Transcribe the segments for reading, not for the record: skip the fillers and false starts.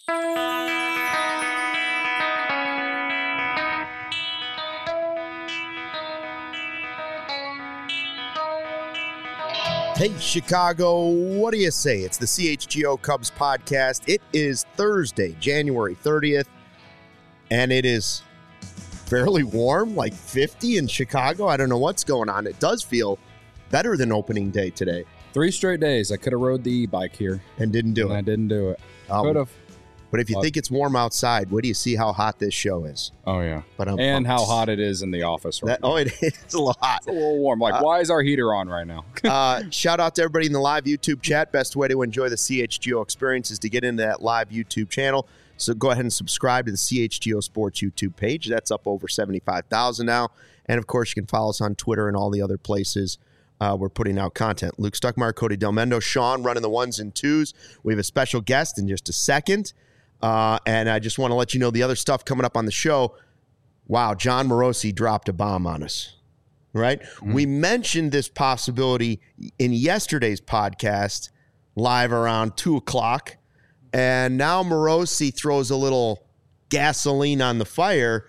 Hey, Chicago, what do you say? It's the CHGO Cubs podcast. It is Thursday, January 30th, and it is fairly warm, like 50 in Chicago. I don't know what's going on. It does feel better than opening day today. 3 straight days. I could have rode the e-bike here. And didn't do it. I didn't do it. Could have. But if you think it's warm outside, wait do you see how hot this show is. Oh, yeah. But and how hot it is in the office right now. Oh, it is a lot. It's a little warm. Like, why is our heater on right now? Shout out to everybody in the live YouTube chat. Best way to enjoy the CHGO experience is to get into that live YouTube channel. So go ahead and subscribe to the CHGO Sports YouTube page. That's up over 75,000 now. And, of course, you can follow us on Twitter and all the other places we're putting out content. Luke Stuckmeyer, Cody Delmendo, Sean running the ones and twos. We have a special guest in just a second. And I just want to let you know the other stuff coming up on the show. Wow, Jon Morosi dropped a bomb on us, right? Mm-hmm. We mentioned this possibility in yesterday's podcast, live around 2 o'clock. And now Morosi throws a little gasoline on the fire,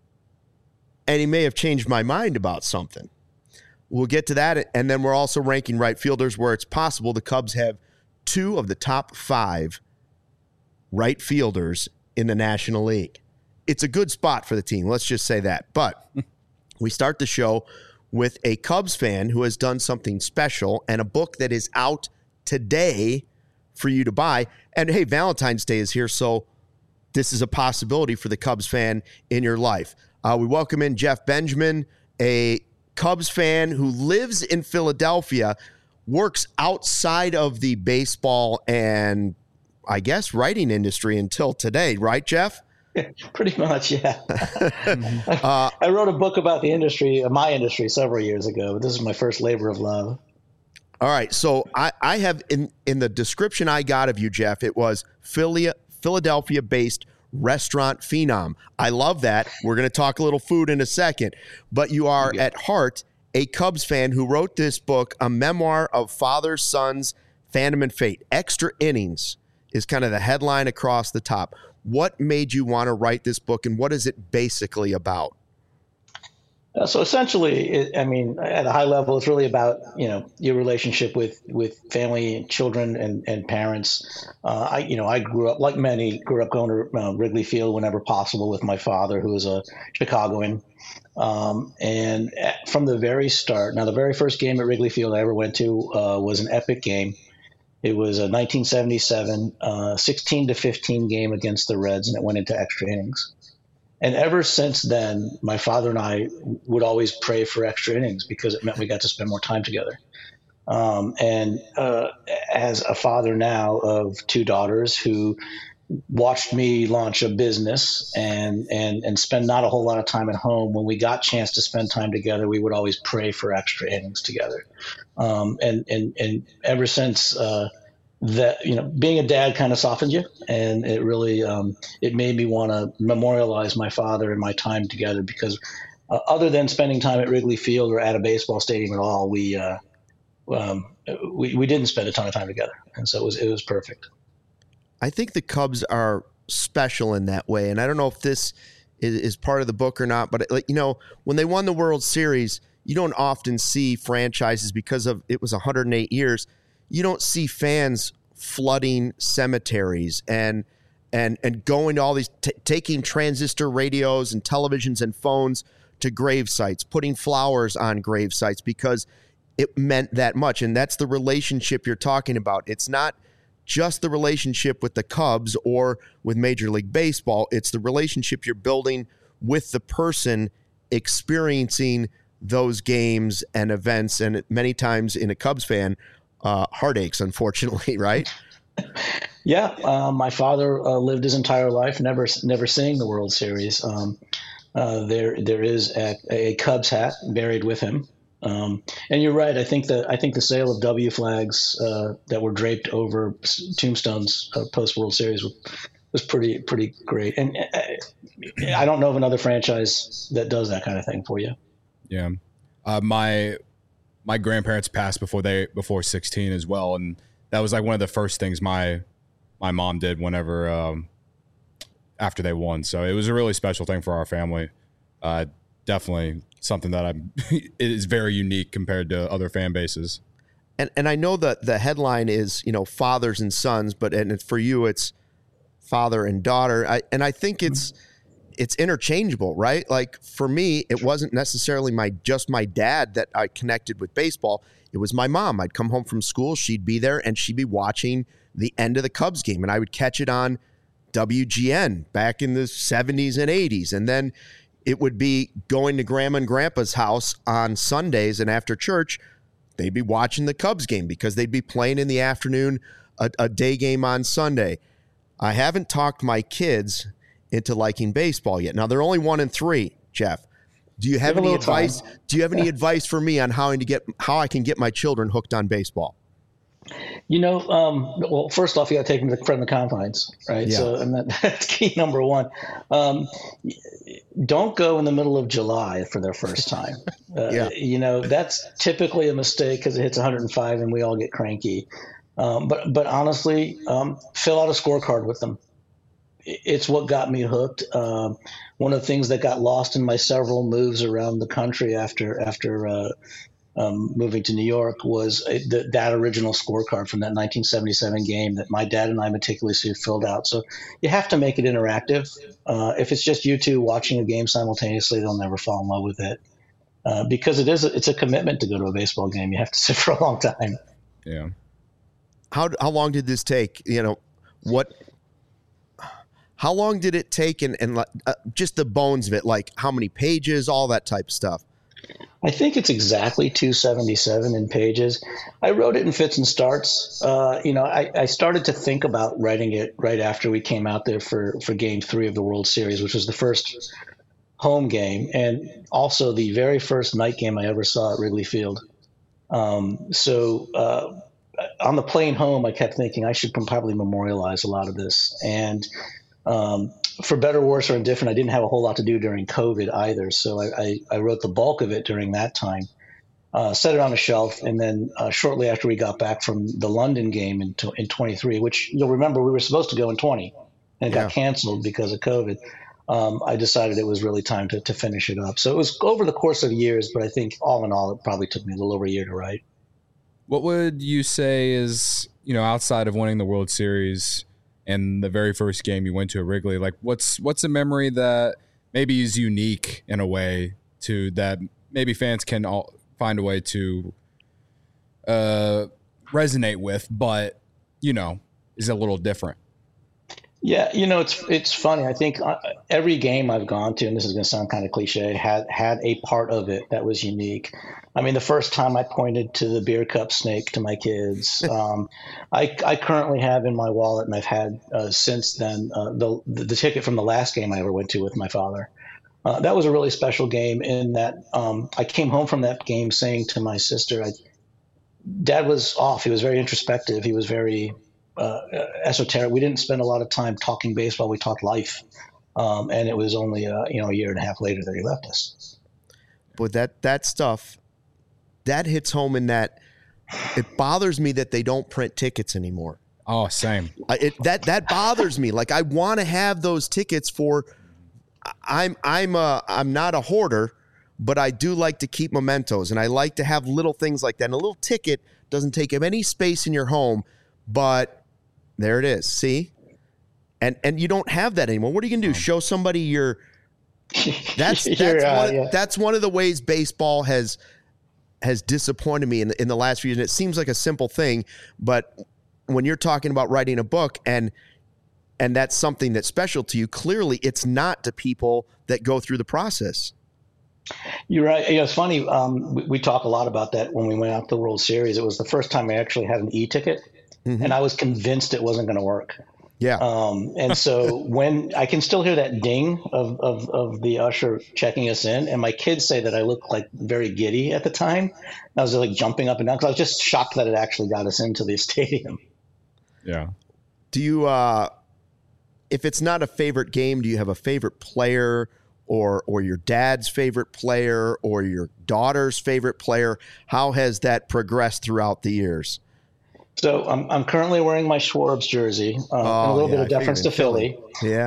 and he may have changed my mind about something. We'll get to that. And then we're also ranking right fielders where it's possible the Cubs have 2 of the top 5 right fielders in the National League. It's a good spot for the team. Let's just say that. But we start the show with a Cubs fan who has done something special and a book that is out today for you to buy. And hey, Valentine's Day is here, so this is a possibility for the Cubs fan in your life. We welcome in Jeff Benjamin, a Cubs fan who lives in Philadelphia, works outside of the baseball and I guess writing industry until today, right, Jeff? Pretty much, yeah. I wrote a book about the industry, my industry, several years ago. This is my first labor of love. All right, so I have in the description I got of you, Jeff, it was Philadelphia-based restaurant phenom. I love that. We're going to talk a little food in a second, but you are at heart a Cubs fan who wrote this book, a memoir of father, sons, fandom, and fate. Extra Innings is kind of the headline across the top. What made you want to write this book, and what is it basically about? So essentially, at a high level, it's really about, your relationship with family and children and parents. I grew up, like many, going to Wrigley Field whenever possible with my father, who was a Chicagoan. And from the very start, now the very first game at Wrigley Field I ever went to was an epic game. It was a 1977 16-15 game against the Reds, and it went into extra innings. And ever since then, my father and I would always pray for extra innings because it meant we got to spend more time together. As a father now of 2 daughters who watched me launch a business and spend not a whole lot of time at home, when we got a chance to spend time together, we would always pray for extra innings together. And ever since that, being a dad kind of softened you, and it really it made me want to memorialize my father and my time together, because other than spending time at Wrigley Field or at a baseball stadium at all, we didn't spend a ton of time together, and so it was perfect. I think the Cubs are special in that way, and I don't know if this is part of the book or not, but when they won the World Series, you don't often see franchises, because of it was 108 years, you don't see fans flooding cemeteries and going to all these, taking transistor radios and televisions and phones to grave sites, putting flowers on grave sites because it meant that much. And that's the relationship you're talking about. It's not just the relationship with the Cubs or with Major League Baseball. It's the relationship you're building with the person experiencing those games and events, and many times in a Cubs fan, heartaches, unfortunately, right? Yeah, my father lived his entire life never seeing the World Series. There is a Cubs hat buried with him. And you're right. I think the sale of W flags that were draped over tombstones post World Series was pretty great. And I don't know of another franchise that does that kind of thing for you. Yeah, my grandparents passed before 16 as well, and that was like one of the first things my mom did whenever after they won. So it was a really special thing for our family. Definitely something that it is very unique compared to other fan bases. And I know that the headline is, fathers and sons, and for you, it's father and daughter. I think it's interchangeable, right? Like for me, it wasn't necessarily just my dad that I connected with baseball. It was my mom. I'd come home from school, she'd be there, and she'd be watching the end of the Cubs game, and I would catch it on WGN back in the 70s and 80s. And then it would be going to Grandma and Grandpa's house on Sundays, and after church, they'd be watching the Cubs game because they'd be playing in the afternoon, a day game on Sunday. I haven't talked my kids into liking baseball yet. Now they're only 1 and 3, Jeff. Do you have any advice? Time. Do you have any advice for me on how I can get my children hooked on baseball? Well, first off, you got to take them from the confines, right? Yeah. So, and that's key number one. Don't go in the middle of July for their first time. That's typically a mistake because it hits 105 and we all get cranky. But honestly, fill out a scorecard with them. It's what got me hooked. One of the things that got lost in my several moves around the country after moving to New York was that original scorecard from that 1977 game that my dad and I meticulously filled out. So you have to make it interactive. If it's just you two watching a game simultaneously, they'll never fall in love with it because it's a commitment to go to a baseball game. You have to sit for a long time. Yeah. How long did this take? How long did it take and just the bones of it, like how many pages, all that type of stuff? I think it's exactly 277 in pages. I wrote it in fits and starts. I started to think about writing it right after we came out there for Game 3 of the World Series, which was the first home game and also the very first night game I ever saw at Wrigley Field. So on the plane home, I kept thinking I should probably memorialize a lot of this. And for better, worse, or indifferent, I didn't have a whole lot to do during COVID either. So I wrote the bulk of it during that time, set it on a shelf. And then shortly after we got back from the London game in 23, which you'll remember we were supposed to go in 20 and it got canceled because of COVID. I decided it was really time to finish it up. So it was over the course of years, but I think all in all, it probably took me a little over a year to write. What would you say is, outside of winning the World Series and the very first game you went to at Wrigley, like what's a memory that maybe is unique in a way to that maybe fans can all find a way to resonate with, but, is a little different? Yeah, it's funny. I think every game I've gone to, and this is going to sound kind of cliche, had a part of it that was unique. I mean, the first time I pointed to the beer cup snake to my kids, I currently have in my wallet, and I've had since then, the ticket from the last game I ever went to with my father. That was a really special game in that I came home from that game saying to my sister, Dad was off. He was very introspective. He was very esoteric. We didn't spend a lot of time talking baseball. We talked life. And it was only a year and a half later that he left us. But that stuff, that hits home in that it bothers me that they don't print tickets anymore. Oh, same. That bothers me. Like I want to have those tickets for. I'm not a hoarder, but I do like to keep mementos, and I like to have little things like that. And a little ticket doesn't take up any space in your home, but there it is. See, and you don't have that anymore. What are you gonna do? Show somebody your? That's one of the ways baseball has disappointed me in the last few years. And it seems like a simple thing, but when you're talking about writing a book and that's something that's special to you, clearly it's not to people that go through the process. You're right. It's funny. We talk a lot about that when we went out to the World Series. It was the first time I actually had an e-ticket, and I was convinced it wasn't going to work. Yeah. And so when I can still hear that ding of the usher checking us in, and my kids say that I look like very giddy at the time. I was like jumping up and down because I was just shocked that it actually got us into the stadium. Yeah. Do you, if it's not a favorite game, do you have a favorite player or your dad's favorite player or your daughter's favorite player? How has that progressed throughout the years? So I'm currently wearing my Schwarbs jersey, and a little bit of deference to Philly. Yeah.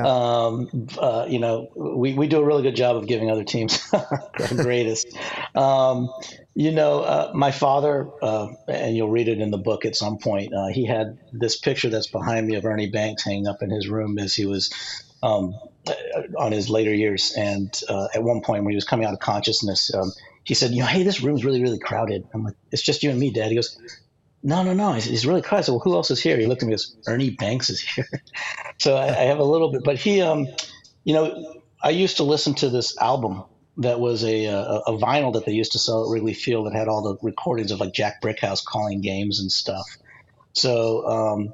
We do a really good job of giving other teams greatest. My father, and you'll read it in the book at some point, he had this picture that's behind me of Ernie Banks hanging up in his room as he was on his later years. And at one point when he was coming out of consciousness, he said, hey, this room's really, really crowded. I'm like, it's just you and me, Dad. He goes, no. He's really crowded. I said, well, who else is here? He looked at me and goes, Ernie Banks is here. So I have a little bit, but he, I used to listen to this album that was a vinyl that they used to sell at Wrigley Field that had all the recordings of like Jack Brickhouse calling games and stuff. So,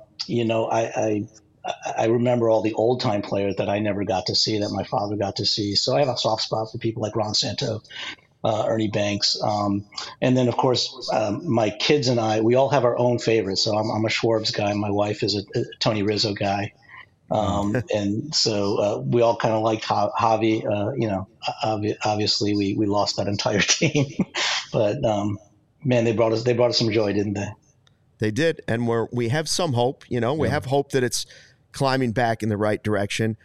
I remember all the old time players that I never got to see that my father got to see. So I have a soft spot for people like Ron Santo, Ernie Banks. And then, of course, my kids and I, we all have our own favorites. So I'm a Schwarbs guy. My wife is a Tony Rizzo guy. And so we all kind of liked Javi. Obviously, we lost that entire team. But, man, they brought us some joy, didn't they? They did. And we have some hope. We have hope that it's climbing back in the right direction.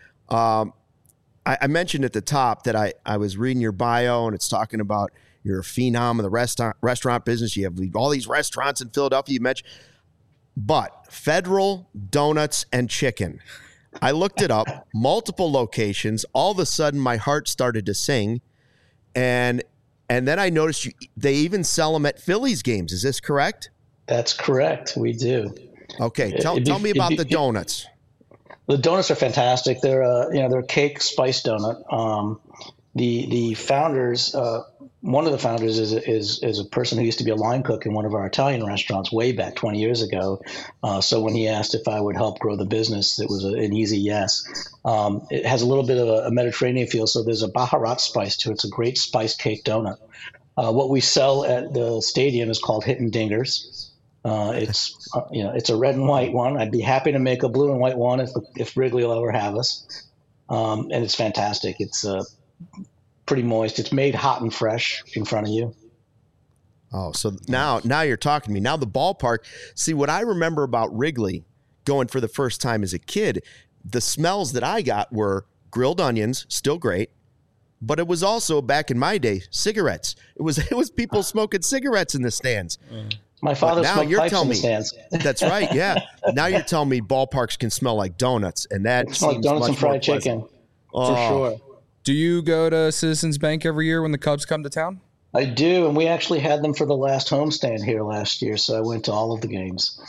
I mentioned at the top that I was reading your bio, and it's talking about you're a phenom of the restaurant business. You have all these restaurants in Philadelphia you mentioned. But Federal Donuts and Chicken. I looked it up, multiple locations. All of a sudden, my heart started to sing. And then I noticed they even sell them at Phillies games. Is this correct? That's correct. We do. Okay. Tell me about the donuts. The donuts are fantastic. They're a cake spice donut. The founders, one of the founders is a person who used to be a line cook in one of our Italian restaurants way back 20 years ago. So when he asked if I would help grow the business, it was an easy yes. It has a little bit of a Mediterranean feel, so there's a Baharat spice to it. It's a great spice cake donut. What we sell at the stadium is called Hittin' Dingers. It's a red and white one. I'd be happy to make a blue and white one if Wrigley will ever have us. And it's fantastic. It's pretty moist. It's made hot and fresh in front of you. Oh, so now you're talking to me. Now the ballpark. See, what I remember about Wrigley going for the first time as a kid, the smells that I got were grilled onions, still great, but it was also, back in my day, cigarettes. It was people smoking cigarettes in the stands. My father smoked pipes in the stands. That's right, yeah. Now you're telling me ballparks can smell like donuts, and that seems like donuts much and fried more chicken, for sure. Do you go to Citizens Bank every year when the Cubs come to town? I do, and we actually had them for the last homestand here last year, so I went to all of the games.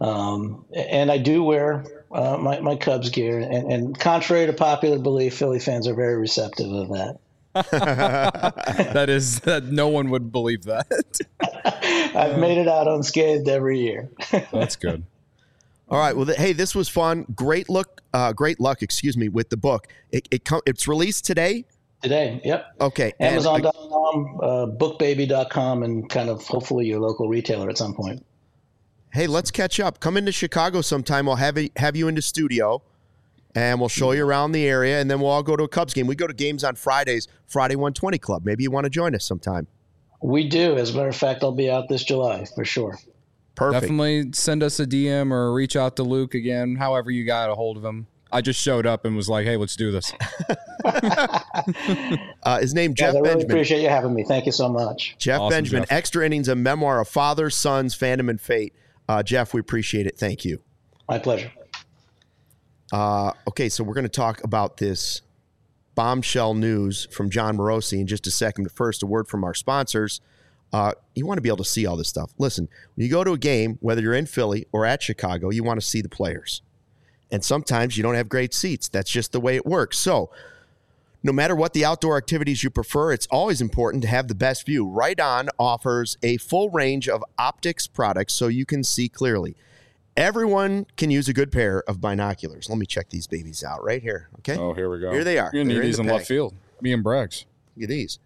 And I do wear my Cubs gear, and contrary to popular belief, Philly fans are very receptive of that. that no one would believe that. I've made it out unscathed every year. That's good. All right. Well, hey, this was fun. Great luck. With the book. It's released today. Today, yep. Okay. Amazon.com, bookbaby.com, and kind of hopefully your local retailer at some point. Hey, let's catch up. Come into Chicago sometime. We'll have you in the studio, and we'll show you around the area, and then we'll all go to a Cubs game. We go to games on Fridays, Friday 120 Club. Maybe you want to join us sometime. We do. As a matter of fact, I'll be out this July for sure. Perfect. Definitely send us a DM or reach out to Luke again, however you got a hold of him. I just showed up and was like, hey, let's do this. His name, Jeff Benjamin. I really appreciate you having me. Thank you so much. Jeff awesome, Benjamin, Jeff. Extra Innings, a memoir of fathers, sons, fandom, and fate. Jeff, we appreciate it. Thank you. My pleasure. Okay, so we're going to talk about this bombshell news from Jon Morosi in just a second. But first, a word from our sponsors. You want to be able to see all this stuff. Listen, when you go to a game, whether you're in Philly or at Chicago, you want to see the players. And sometimes you don't have great seats. That's just the way it works. So no matter what the outdoor activities you prefer, it's always important to have the best view. Right On offers a full range of optics products so you can see clearly. Everyone can use a good pair of binoculars. Let me check these babies out right here. Okay. Oh, here we go. Here they are. You're going to need these in left field. Me and Braggs. Look at these.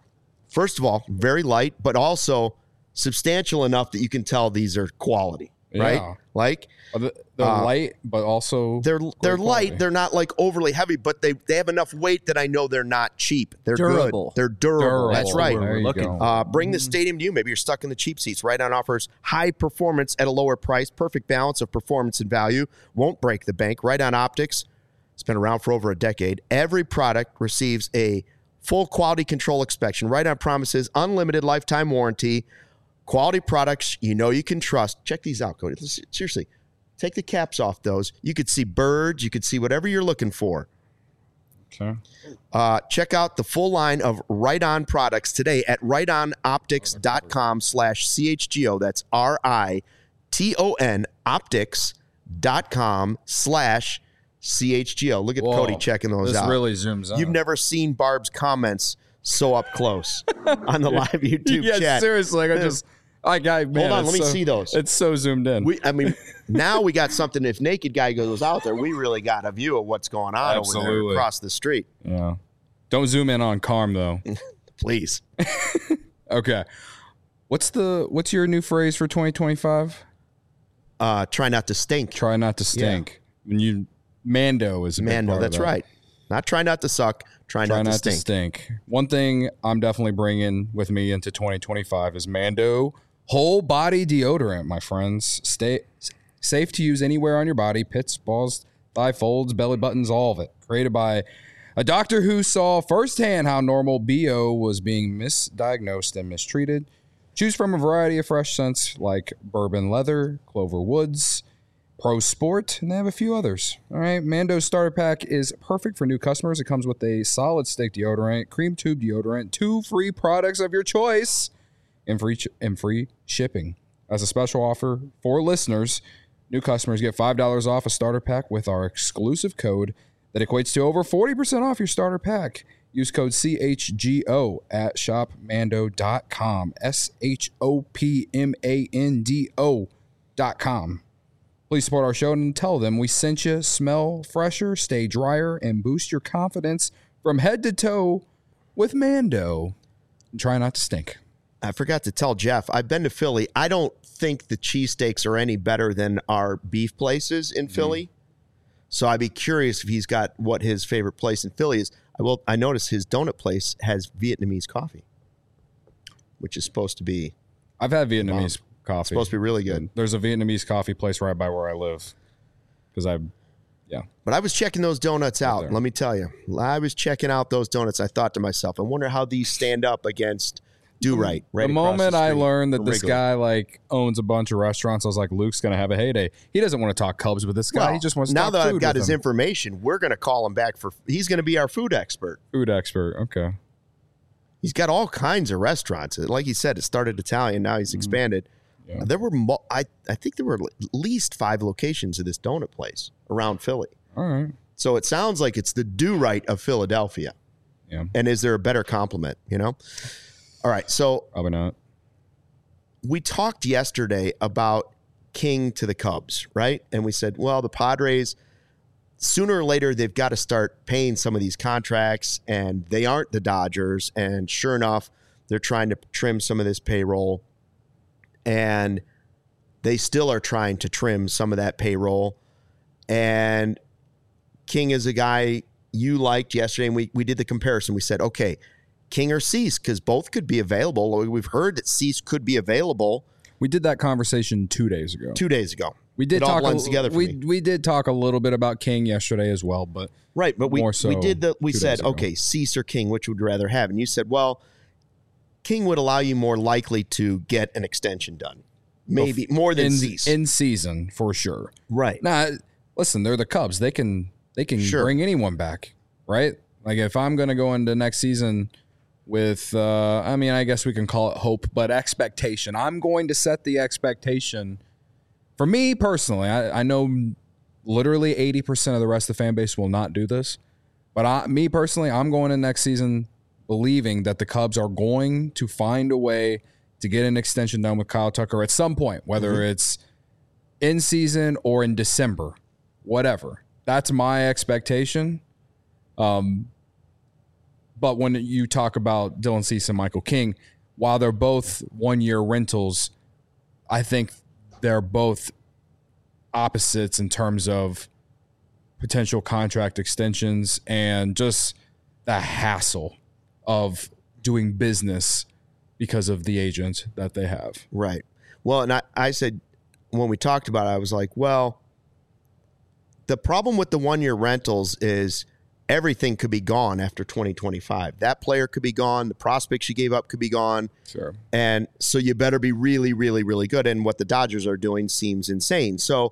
First of all, very light, but also substantial enough that you can tell these are quality. right? Yeah. Like They're light, but also they're great light. quality. They're not like overly heavy, but they have enough weight that I know they're not cheap. They're Durable. good. They're durable. That's Durable. right. There We're you looking go. Bring the stadium to you. Maybe you're stuck in the cheap seats. Right On offers high performance at a lower price. Perfect balance of performance and value. Won't break the bank. Right On Optics. It's been around for over a decade. Every product receives a full quality control inspection. Right On promises unlimited lifetime warranty. Quality products you know you can trust. Check these out, Cody. Seriously, take the caps off those. You could see birds. You could see whatever you're looking for. Okay. Check out the full line of Right On products today at rightonoptics.com/CHGO. That's RITON optics.com/CHGO. Look at Whoa, Cody checking those this out. really zooms out. You've never seen Barb's comments so up close on the live YouTube yeah, chat. seriously. Man, Hold on, let me see those. It's so zoomed in. Now we got something. If Naked Guy goes out there, we really got a view of what's going on over there across the street. Yeah. Don't zoom in on Carm though. Please. Okay. What's your new phrase for 2025? Try not to stink. Try not to stink. When Mando is a big Mando, part of that's that. right. Not try not to suck. Try not to stink. One thing I'm definitely bringing with me into 2025 is Mando whole body deodorant, my friends. Stay safe to use anywhere on your body. Pits, balls, thigh folds, belly buttons, all of it. Created by a doctor who saw firsthand how normal BO was being misdiagnosed and mistreated. Choose from a variety of fresh scents like bourbon leather, clover woods, Pro Sport, and they have a few others. All right, Mando's starter pack is perfect for new customers. It comes with a solid stick deodorant, cream tube deodorant, 2 free products of your choice, and free shipping. As a special offer for listeners, new customers get $5 off a starter pack with our exclusive code that equates to over 40% off your starter pack. Use code CHGO at shopmando.com. SHOPMANDO.com. Please support our show and tell them we sent you. Smell fresher, stay drier, and boost your confidence from head to toe with Mando. And try not to stink. I forgot to tell Jeff, I've been to Philly. I don't think the cheesesteaks are any better than our beef places in Philly. So I'd be curious if he's got what his favorite place in Philly is. I noticed his donut place has Vietnamese coffee, which is supposed to be I've had Vietnamese coffee. supposed to be really good. There's a Vietnamese coffee place right by where I live. But I was checking those donuts out. there. Let me tell you, I was checking out those donuts. I thought to myself, I wonder how these stand up against Do Right. The across moment I street learned that from this Wrigley. guy owns a bunch of restaurants, I was like, Luke's gonna have a heyday. He doesn't want to talk Cubs with this guy. Well, He just wants to now talk that food I've got with his him. information, we're going to call him back he's going to be our food expert. Food expert. Okay. He's got all kinds of restaurants. Like he said, it started Italian. Now he's expanded. Yeah. There were, I think there were at least 5 locations of this donut place around Philly. All right. So it sounds like it's the Do Right of Philadelphia. Yeah. And is there a better compliment, All right. So Probably not. we talked yesterday about King to the Cubs, right? And we said, well, the Padres, sooner or later, they've got to start paying some of these contracts, and they aren't the Dodgers. And sure enough, they're trying to trim some of this payroll, and they still are trying to trim some of that payroll. And King is a guy you liked yesterday, and we did the comparison. We said, okay, King or Cease, because both could be available. We've heard that Cease could be available. We did that conversation 2 days ago. 2 days ago. We did It all talk. blends together for me. We did talk a little bit about King yesterday as well, but Right, but we more so we 2 said, days ago. okay, Cease or King, which would you rather have? And you said, well, King would allow you more likely to get an extension done. Maybe more than Cease. in season for sure. Right. Nah, listen, they're the Cubs. They can Sure. bring anyone back, right? Like if I'm going to go into next season with, I guess we can call it hope, but expectation. I'm going to set the expectation. For me personally, I know literally 80% of the rest of the fan base will not do this, but me personally, I'm going in next season believing that the Cubs are going to find a way to get an extension done with Kyle Tucker at some point, whether it's in season or in December, whatever. That's my expectation. But when you talk about Dylan Cease and Michael King, while they're both 1-year rentals, I think they're both opposites in terms of potential contract extensions and just the hassle of doing business because of the agent that they have. Right. Well, and I said, when we talked about it, I was like, well, the problem with the 1-year rentals is everything could be gone after 2025. That player could be gone. The prospects you gave up could be gone. Sure. And so you better be really, really, really good. And what the Dodgers are doing seems insane. So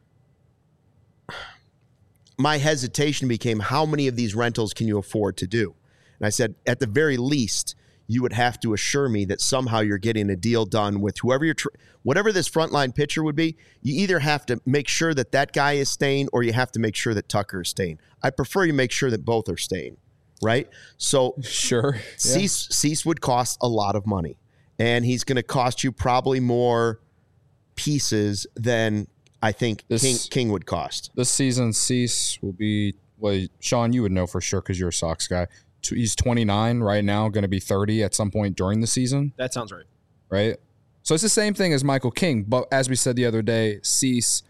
my hesitation became, how many of these rentals can you afford to do? And I said, at the very least, you would have to assure me that somehow you're getting a deal done with whoever whatever this frontline pitcher would be. You either have to make sure that that guy is staying, or you have to make sure that Tucker is staying. I prefer you make sure that both are staying, right? So sure, Cease would cost a lot of money, and he's going to cost you probably more pieces than I think King would cost. This season, Cease will be, well, Sean, you would know for sure because you're a Sox guy. He's 29 right now, going to be 30 at some point during the season. That sounds right. Right? So it's the same thing as Michael King, but as we said the other day, Cease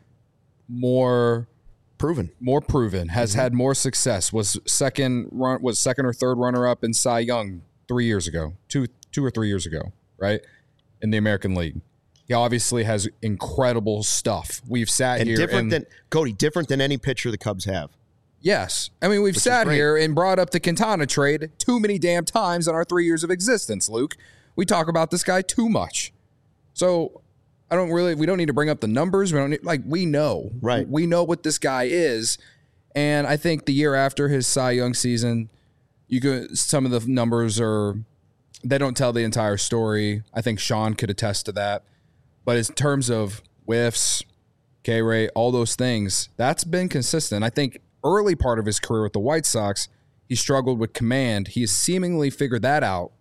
more proven, has had more success, was second or third runner-up in Cy Young 3 years ago, two or 3 years ago, right? In the American League. He obviously has incredible stuff. We've sat here different than any pitcher the Cubs have. Yes. I mean, we've sat here and brought up the Quintana trade too many damn times in our 3 years of existence, Luke. We talk about this guy too much. So we don't need to bring up the numbers. We know. Right. We know what this guy is. And I think the year after his Cy Young season, some of the numbers they don't tell the entire story. I think Sean could attest to that. But in terms of whiffs, K-rate, all those things, that's been consistent. I think early part of his career with the White Sox, he struggled with command. He has seemingly figured that out.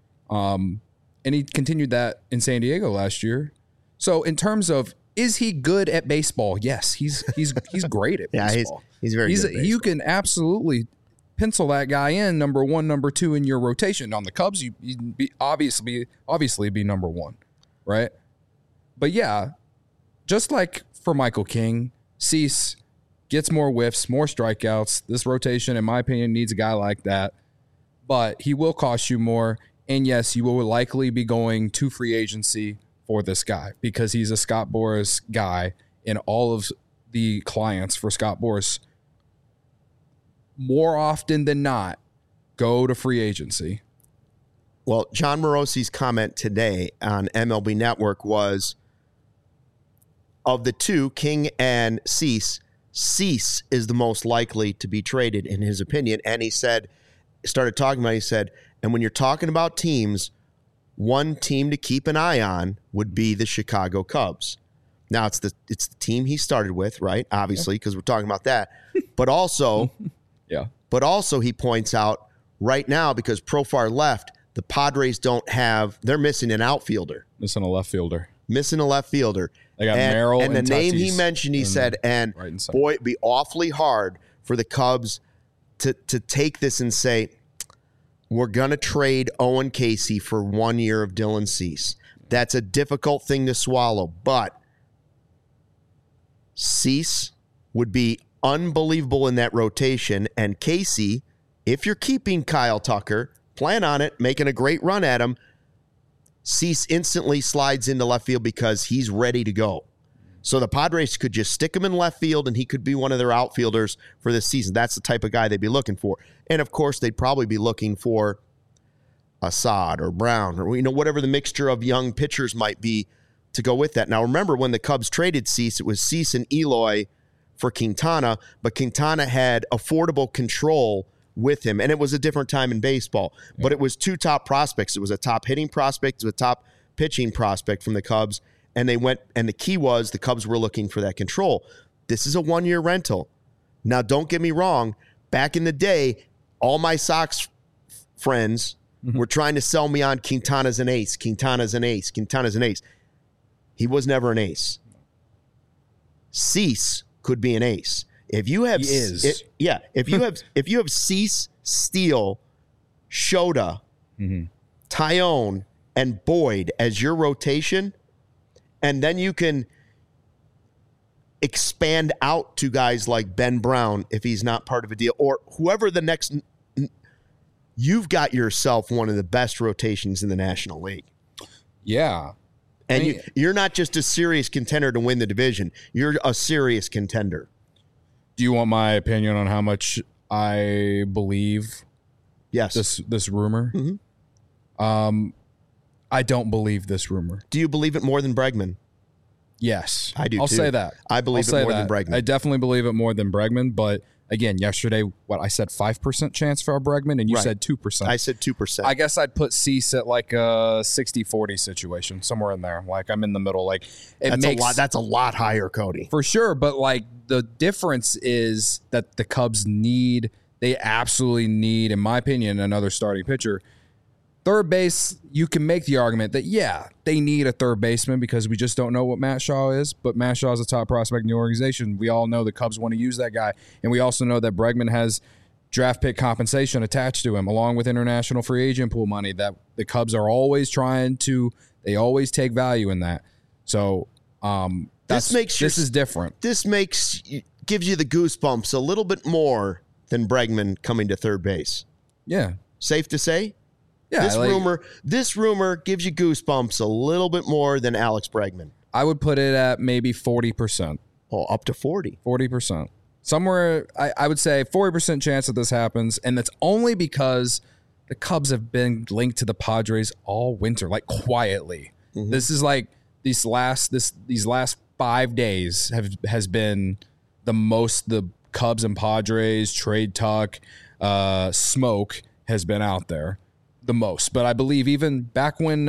And he continued that in San Diego last year. So in terms of, is he good at baseball? Yes, he's great at baseball. He's very good at baseball. You can absolutely pencil that guy in number 1, number 2 in your rotation. On the Cubs, you'd be obviously be number 1, right? But yeah, just like for Michael King, Cease gets more whiffs, more strikeouts. This rotation, in my opinion, needs a guy like that. But he will cost you more. And yes, you will likely be going to free agency for this guy because he's a Scott Boras guy, and all of the clients for Scott Boras, more often than not, go to free agency. Well, John Morosi's comment today on MLB Network was, of the two, King and Cease is the most likely to be traded in his opinion. And he said, and when you're talking about teams, one team to keep an eye on would be the Chicago Cubs. Now it's the team he started with, right? Obviously, because we're talking about that. But also, he points out right now, because Profar left, the Padres they're missing an outfielder. Missing a left fielder. They got Merrill and the name he mentioned, he said, boy, it'd be awfully hard for the Cubs to take this and say, we're going to trade Owen Casey for 1 year of Dylan Cease. That's a difficult thing to swallow, but Cease would be unbelievable in that rotation, and Casey, if you're keeping Kyle Tucker, plan on it, making a great run at him, Cease instantly slides into left field because he's ready to go. So the Padres could just stick him in left field, and he could be one of their outfielders for this season. That's the type of guy they'd be looking for. And, of course, they'd probably be looking for Assad or Brown or whatever the mixture of young pitchers might be to go with that. Now, remember, when the Cubs traded Cease, it was Cease and Eloy for Quintana, but Quintana had affordable control with him, and it was a different time in baseball. Yeah. But it was two top prospects. It was a top hitting prospect, it was a top pitching prospect from the Cubs, and they went. And the key was the Cubs were looking for that control. This is a 1 year rental. Now, don't get me wrong. Back in the day, all my Sox friends were trying to sell me on Quintana's an ace. He was never an ace. Cease could be an ace. If you have, if you have Cease, Steele, Shota, Tyone, and Boyd as your rotation, and then you can expand out to guys like Ben Brown if he's not part of a deal, or whoever the next. You've got yourself one of the best rotations in the National League. Yeah. And you're not just a serious contender to win the division. You're a serious contender. Do you want my opinion on how much I believe this rumor? Mm-hmm. I don't believe this rumor. Do you believe it more than Bregman? Yes. I do, I'll too. say that. I believe it more than Bregman. I definitely believe it more than Bregman, but again, yesterday, I said 5% chance for Bregman, and you said 2%. I said 2%. I guess I'd put Cease at like a 60-40 situation, somewhere in there. Like I'm in the middle. Like that's a lot higher, Cody. For sure, but like the difference is that the Cubs they absolutely need, in my opinion, another starting pitcher. Third base, you can make the argument that, they need a third baseman because we just don't know what Matt Shaw is, but Matt Shaw is a top prospect in the organization. We all know the Cubs want to use that guy, and we also know that Bregman has draft pick compensation attached to him, along with international free agent pool money that the Cubs are always they always take value in that. So this is different. This gives you the goosebumps a little bit more than Bregman coming to third base. Yeah. Safe to say? Yeah, this rumor gives you goosebumps a little bit more than Alex Bregman. I would put it at maybe 40%. Oh, up to 40. 40%. Somewhere, I would say 40% chance that this happens, and that's only because the Cubs have been linked to the Padres all winter, like quietly. Mm-hmm. This is like these last 5 days has been the most the Cubs and Padres trade talk, smoke has been out there. The most, but I believe even back when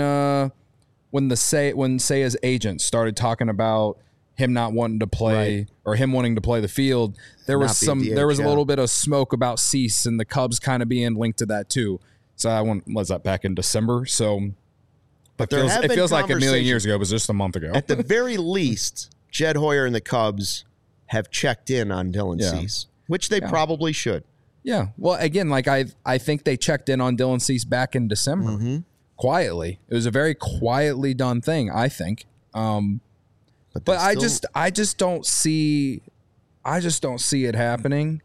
Seiya's agent started talking about him not wanting to play or him wanting to play the field, there was a little bit of smoke about Cease and the Cubs kind of being linked to that too. So was that back in December? So, but it feels like a million years ago. It was just a month ago. At the very least, Jed Hoyer and the Cubs have checked in on Dylan Cease, which they probably should. Yeah. Well, again, like I think they checked in on Dylan Cease back in December quietly. It was a very quietly done thing, I think. But I just don't see it happening.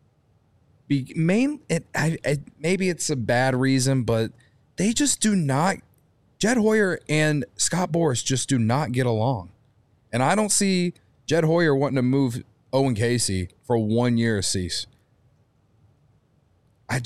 Maybe it's a bad reason, but they just do not. Jed Hoyer and Scott Boras just do not get along, and I don't see Jed Hoyer wanting to move Owen Casey for 1 year of Cease. I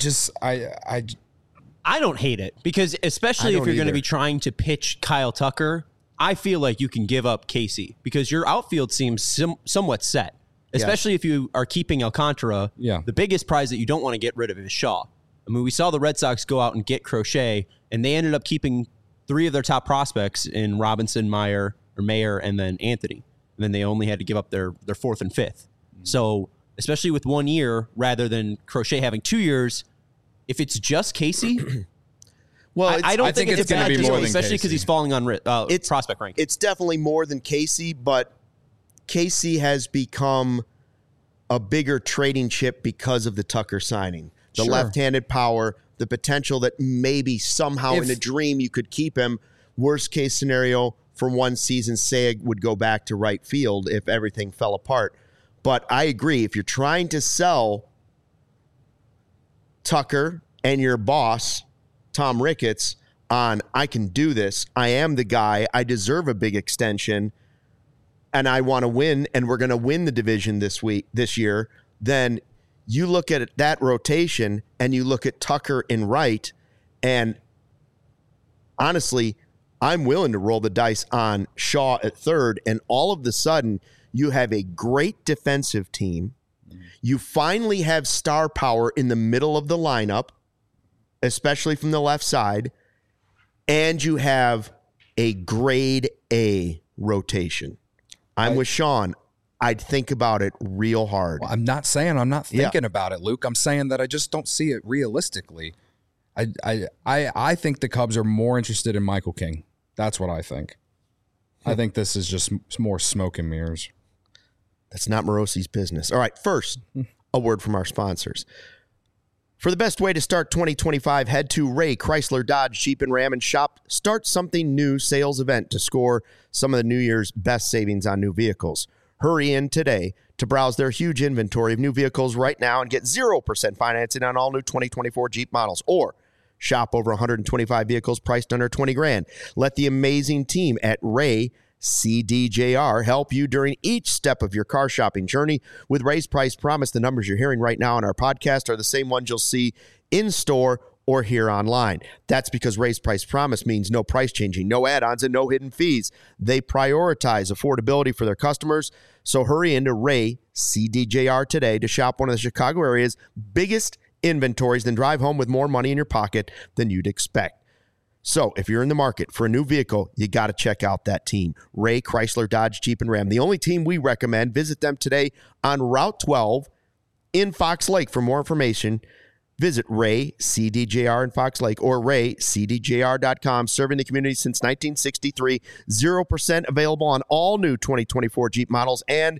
don't hate it because especially if you're going to be trying to pitch Kyle Tucker, I feel like you can give up Casey because your outfield seems somewhat set, especially if you are keeping Alcantara. Yeah. The biggest prize that you don't want to get rid of is Shaw. I mean, we saw the Red Sox go out and get Crochet, and they ended up keeping 3 of their top prospects in Robinson, Mayer, and then Anthony. And then they only had to give up their 4th and 5th. So especially with 1 year rather than Crochet having 2 years, if it's just Casey, well, I don't think it's a bad deal, especially because he's falling on prospect rank. It's definitely more than Casey, but Casey has become a bigger trading chip because of the Tucker signing. The left-handed power, the potential that maybe somehow in a dream you could keep him. Worst case scenario, for one season, Seiya would go back to right field if everything fell apart. But I agree, if you're trying to sell Tucker and your boss, Tom Ricketts, on I can do this, I am the guy, I deserve a big extension, and I want to win, and we're going to win the division this year, then you look at that rotation and you look at Tucker and right, and honestly, I'm willing to roll the dice on Shaw at third, and all of a sudden, you have a great defensive team. You finally have star power in the middle of the lineup, especially from the left side, and you have a grade A rotation. I'm with Sean. I'd think about it real hard. Well, I'm not saying I'm not thinking about it, Luke. I'm saying that I just don't see it realistically. I think the Cubs are more interested in Michael King. That's what I think. I think this is just more smoke and mirrors. That's not Morosi's business. All right, first, a word from our sponsors. For the best way to start 2025, head to Ray Chrysler Dodge Jeep and Ram and shop Start Something New sales event to score some of the New Year's best savings on new vehicles. Hurry in today to browse their huge inventory of new vehicles right now and get 0% financing on all new 2024 Jeep models, or shop over 125 vehicles priced under 20 grand. Let the amazing team at Ray CDJR help you during each step of your car shopping journey. With Ray's Price Promise, the numbers you're hearing right now on our podcast are the same ones you'll see in store or here online. That's because Ray's Price Promise means no price changing, no add-ons, and no hidden fees. They prioritize affordability for their customers. So hurry into Ray CDJR today to shop one of the Chicago area's biggest inventories, then drive home with more money in your pocket than you'd expect. So if you're in the market for a new vehicle, you got to check out that team, Ray Chrysler Dodge Jeep and Ram, the only team we recommend. Visit them today on Route 12 in Fox Lake. For more information, visit Ray CDJR in Fox Lake or raycdjr.com. Serving the community since 1963. 0% available on all new 2024 Jeep models and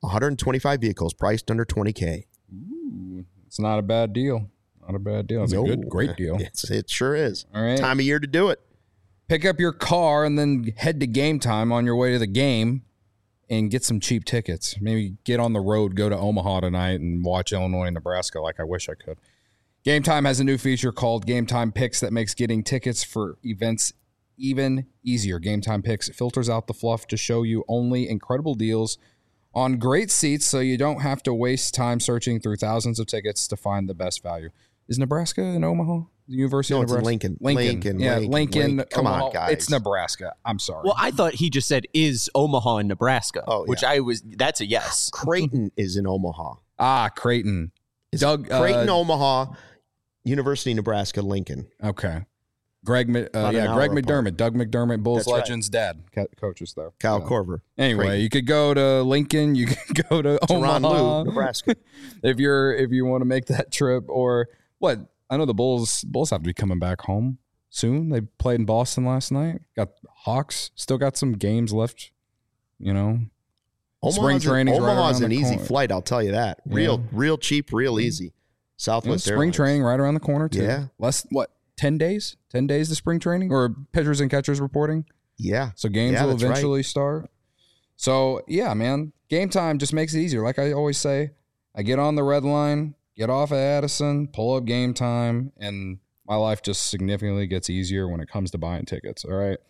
125 vehicles priced under $20K. Ooh, it's not a bad deal. Not a bad deal. It's a great deal. It sure is. All right. Time of year to do it. Pick up your car and then head to Game Time on your way to the game and get some cheap tickets. Maybe get on the road, go to Omaha tonight and watch Illinois and Nebraska like I wish I could. Game Time has a new feature called Game Time Picks that makes getting tickets for events even easier. Game Time Picks filters out the fluff to show you only incredible deals on great seats so you don't have to waste time searching through thousands of tickets to find the best value. Is Nebraska in Omaha? The University of Nebraska? Lincoln. Yeah, Lincoln. Come Omaha. on, guys. It's Nebraska. I'm sorry. Well, I thought he just said, is Omaha in Nebraska? Oh, yeah. Which that's a yes. Creighton is in Omaha. Creighton. Creighton, Omaha, University of Nebraska, Lincoln. Okay. Greg McDermott. Doug McDermott, Bulls legends, dad, coaches there. Kyle Korver. Anyway, Creighton. you could go to Lincoln. You could go to Omaha, Nebraska. if you want to make that trip. Or what? I know the Bulls have to be coming back home soon. They played in Boston last night. Got Hawks. Still got some games left. You know, spring training. Omaha's an easy flight. I'll tell you that. Real cheap, real easy. Southwest spring training right around the corner too. Yeah. 10 days? 10 days to spring training or pitchers and catchers reporting? Yeah. So games will eventually start. So, yeah, man, Game Time just makes it easier. Like I always say, I get on the red line, get off at Addison, pull up Game Time, and my life just significantly gets easier when it comes to buying tickets, all right?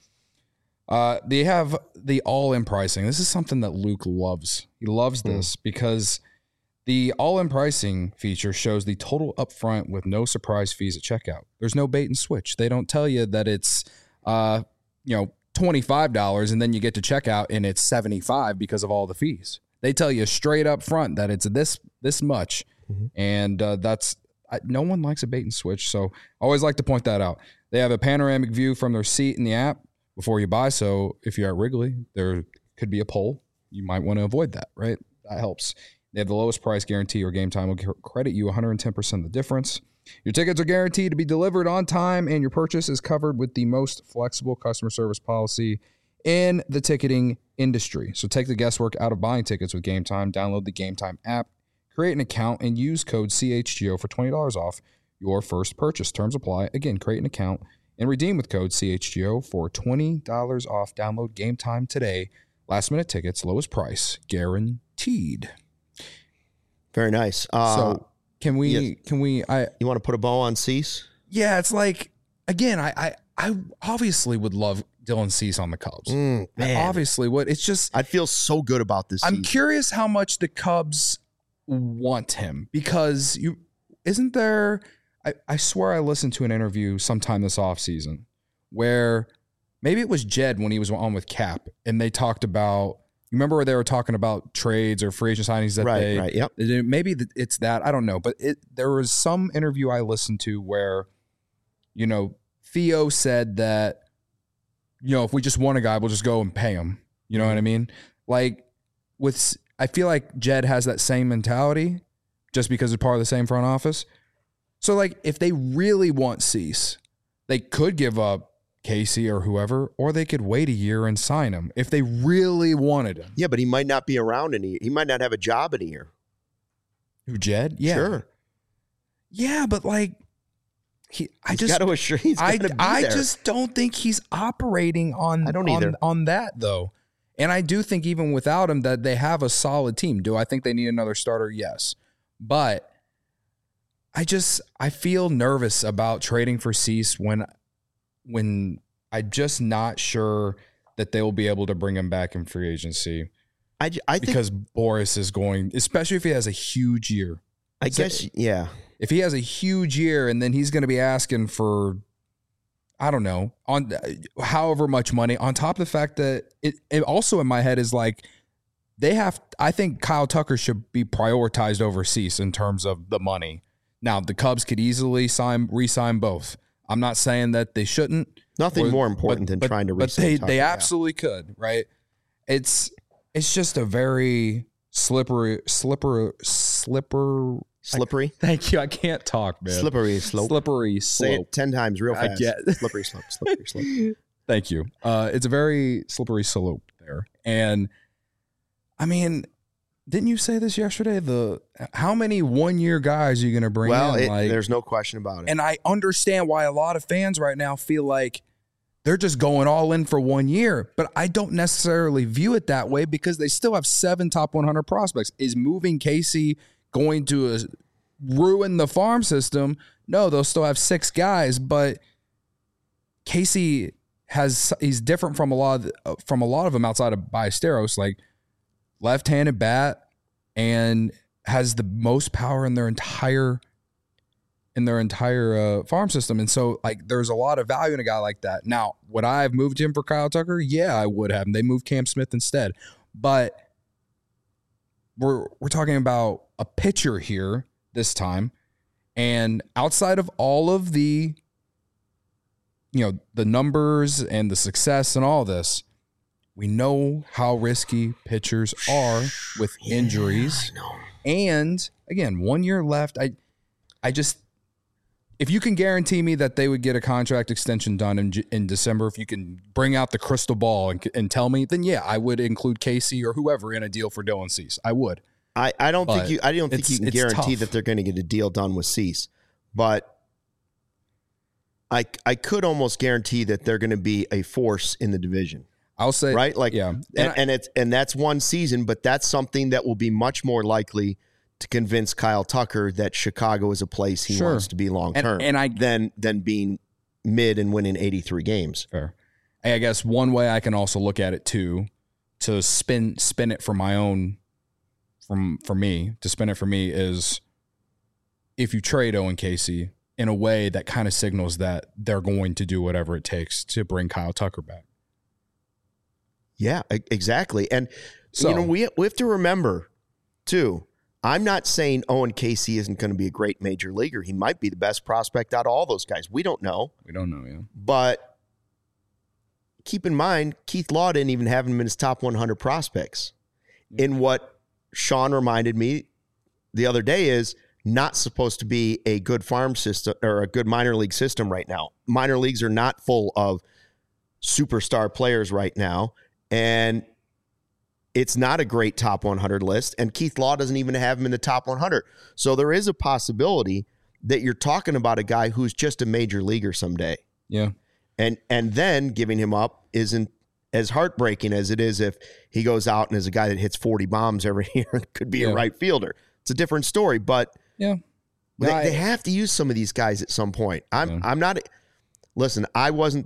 They have the all-in pricing. This is something that Luke loves. He loves this because the all-in pricing feature shows the total upfront with no surprise fees at checkout. There's no bait and switch. They don't tell you that it's, $25 and then you get to checkout and it's $75 because of all the fees. They tell you straight up front that it's this much, and no one likes a bait and switch. So I always like to point that out. They have a panoramic view from their seat in the app before you buy. So if you're at Wrigley, there could be a poll. You might want to avoid that, right? That helps. They have the lowest price guarantee, or Game Time will credit you 110% of the difference. Your tickets are guaranteed to be delivered on time, and your purchase is covered with the most flexible customer service policy in the ticketing industry. So take the guesswork out of buying tickets with Game Time. Download the Game Time app, create an account, and use code CHGO for $20 off your first purchase. Terms apply. Again, create an account and redeem with code CHGO for $20 off. Download Game Time today. Last minute tickets, lowest price, guaranteed. Very nice. So can we, you want to put a bow on Cease? Yeah, it's like, again, I obviously would love Dylan Cease on the Cubs. I obviously would. It's just, I'd feel so good about this season. I'm curious how much the Cubs want him, because isn't there, I swear I listened to an interview sometime this offseason where maybe it was Jed when he was on with Cap, and they talked about, you remember where they were talking about trades or free agent signings that Yep. Maybe it's that, I don't know, but there was some interview I listened to where, Theo said that, if we just want a guy, we'll just go and pay him. You know what I mean? Like I feel like Jed has that same mentality just because it's part of the same front office. So like if they really want Cease, they could give up Casey or whoever, or they could wait a year and sign him if they really wanted him. Yeah, but he might not be around in a year. He might not have a job in a year. Who, Jed? Yeah. Sure. Yeah, but like I just don't think he's operating on I don't either. On that though. And I do think even without him that they have a solid team. Do I think they need another starter? Yes. But I feel nervous about trading for Cease when I'm just not sure that they will be able to bring him back in free agency. I think because Boris is going, especially if he has a huge year. I guess, yeah. If he has a huge year and then he's going to be asking for, I don't know, on however much money, on top of the fact that it also in my head is like I think Kyle Tucker should be prioritized over Cease in terms of the money. Now, the Cubs could easily re-sign both. I'm not saying that they shouldn't. Nothing more important than trying to re-sign Tucker. But they absolutely could, right? It's just a very slippery. Thank you. I can't talk, man. Slippery slope. Slippery slope. Say it 10 times real fast. I get Slippery slope. Slippery slope. Thank you. It's a very slippery slope there. And I mean, didn't you say this yesterday? How many 1-year guys are you going to bring in? Well, there's no question about it. And I understand why a lot of fans right now feel like they're just going all in for 1 year. But I don't necessarily view it that way because they still have 7 top 100 prospects. Is moving Casey going to ruin the farm system? No, they'll still have 6 guys, but Casey he's different from a lot of them outside of Ballesteros, like left-handed bat, and has the most power in their entire farm system. And so like there's a lot of value in a guy like that. Now, would I have moved him for Kyle Tucker? Yeah, I would have. And they moved Cam Smith instead. But we're talking about a pitcher here this time. And outside of all of the numbers and the success and all this, we know how risky pitchers are with injuries. And again, 1 year left. I just, if you can guarantee me that they would get a contract extension done in December, if you can bring out the crystal ball and tell me, then yeah, I would include Casey or whoever in a deal for Dylan Cease. I would. I don't think you can guarantee that they're going to get a deal done with Cease, but I could almost guarantee that they're going to be a force in the division. I'll say, right, like, yeah, and that's one season, but that's something that will be much more likely to convince Kyle Tucker that Chicago is a place he wants to be long term, than being mid and winning 83 games. Fair. I guess one way I can also look at it too, to spin it for my own, for me is if you trade Owen Casey in a way that kind of signals that they're going to do whatever it takes to bring Kyle Tucker back. Yeah, exactly. And so, we have to remember too, I'm not saying Owen Casey isn't going to be a great major leaguer. He might be the best prospect out of all those guys. We don't know. Yeah. But keep in mind, Keith Law didn't even have him in his top 100 prospects. Yeah. In what Sean reminded me the other day is not supposed to be a good farm system or a good minor league system right now. Minor leagues are not full of superstar players right now. And it's not a great top 100 list, and Keith Law doesn't even have him in the top 100. So there is a possibility that you're talking about a guy who's just a major leaguer someday. Yeah. And then giving him up isn't as heartbreaking as it is if he goes out and is a guy that hits 40 bombs every year and could be a right fielder. It's a different story, but they have to use some of these guys at some point. I'm not – listen, the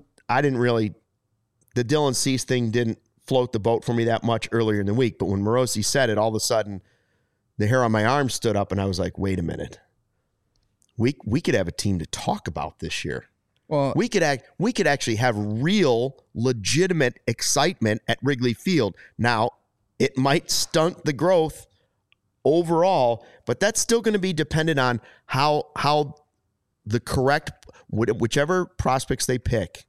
Dylan Cease thing didn't float the boat for me that much earlier in the week. But when Morosi said it, all of a sudden the hair on my arm stood up and I was like, wait a minute. We could have a team to talk about this year. Well, we could actually have real legitimate excitement at Wrigley Field. Now, it might stunt the growth overall, but that's still going to be dependent on how the correct, whichever prospects they pick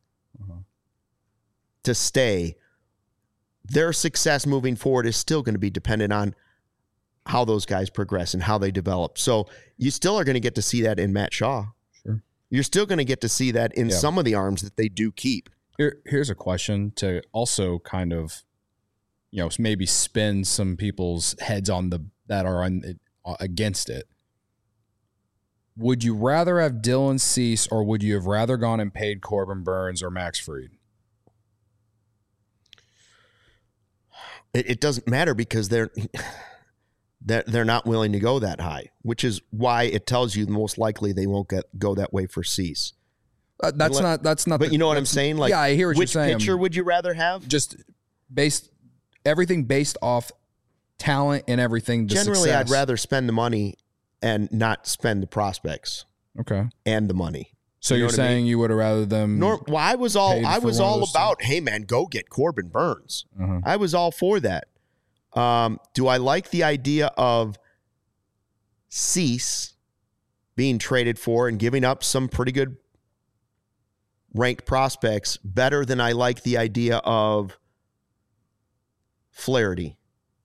to stay, their success moving forward is still going to be dependent on how those guys progress and how they develop. So you still are going to get to see that in Matt Shaw. Sure. You're still going to get to see that in some of the arms that they do keep. Here's a question to also kind of, maybe spin some people's heads on that are against it. Would you rather have Dylan Cease, or would you have rather gone and paid Corbin Burns or Max Fried? It doesn't matter because they're not willing to go that high, which is why it tells you most likely they won't go that way for Cease. That's not. But you know what I'm saying? Like, yeah, I hear what you're saying. Which pitcher would you rather have? Just everything based off talent and everything. Generally, success. I'd rather spend the money and not spend the prospects. Okay. And the money. So you're saying you would have rather them? I was all about, hey man, go get Corbin Burns. Uh-huh. I was all for that. Do I like the idea of Cease being traded for and giving up some pretty good ranked prospects better than I like the idea of Flaherty?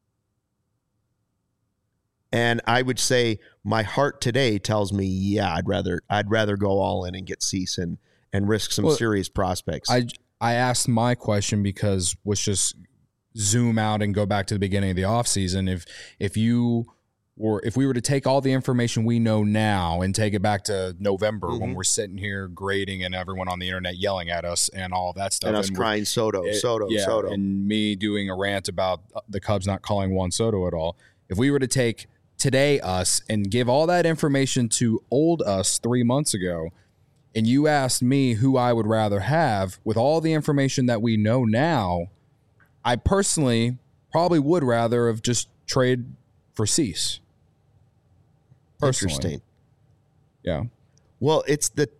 And I would say my heart today tells me, yeah, I'd rather go all in and get Cease and risk some serious prospects. I asked my question because let's just zoom out and go back to the beginning of the offseason. If we were to take all the information we know now and take it back to November when we're sitting here grading and everyone on the internet yelling at us and all that stuff. And us crying Soto. And me doing a rant about the Cubs not calling Juan Soto at all. If we were to take today us and give all that information to old us 3 months ago, and you asked me who I would rather have with all the information that we know now, I personally probably would rather have just trade for Cease. Personally. Interesting. Yeah. Well, it's the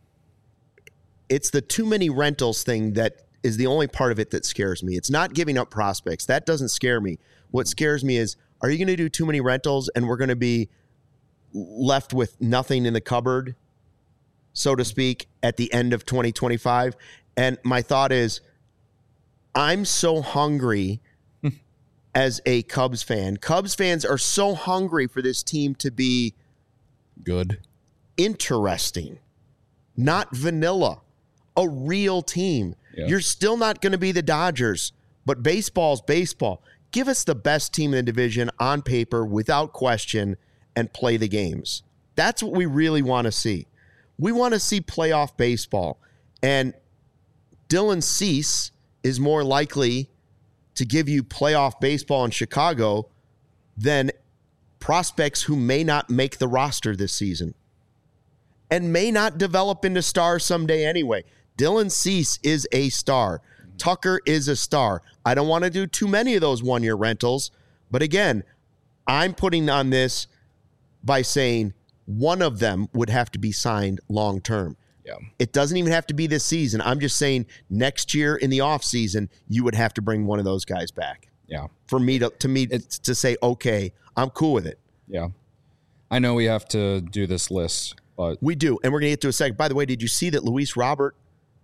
too many rentals thing that is the only part of it that scares me. It's not giving up prospects. That doesn't scare me. What scares me is, are you going to do too many rentals and we're going to be left with nothing in the cupboard, so to speak, at the end of 2025? And my thought is, I'm so hungry as a Cubs fan. Cubs fans are so hungry for this team to be good, interesting, not vanilla, a real team. Yeah. You're still not going to be the Dodgers, but baseball's baseball. Give us the best team in the division on paper without question and play the games. That's what we really want to see. We want to see playoff baseball. And Dylan Cease is more likely to give you playoff baseball in Chicago than prospects who may not make the roster this season and may not develop into stars someday anyway. Dylan Cease is a star. Tucker is a star. I don't want to do too many of those one-year rentals, but again, I'm putting on this by saying one of them would have to be signed long-term. Yeah. It doesn't even have to be this season. I'm just saying next year in the offseason, you would have to bring one of those guys back. Yeah. For me to say, okay, I'm cool with it. Yeah. I know we have to do this list, but we do. And we're going to get to a second. By the way, did you see that Luis Robert,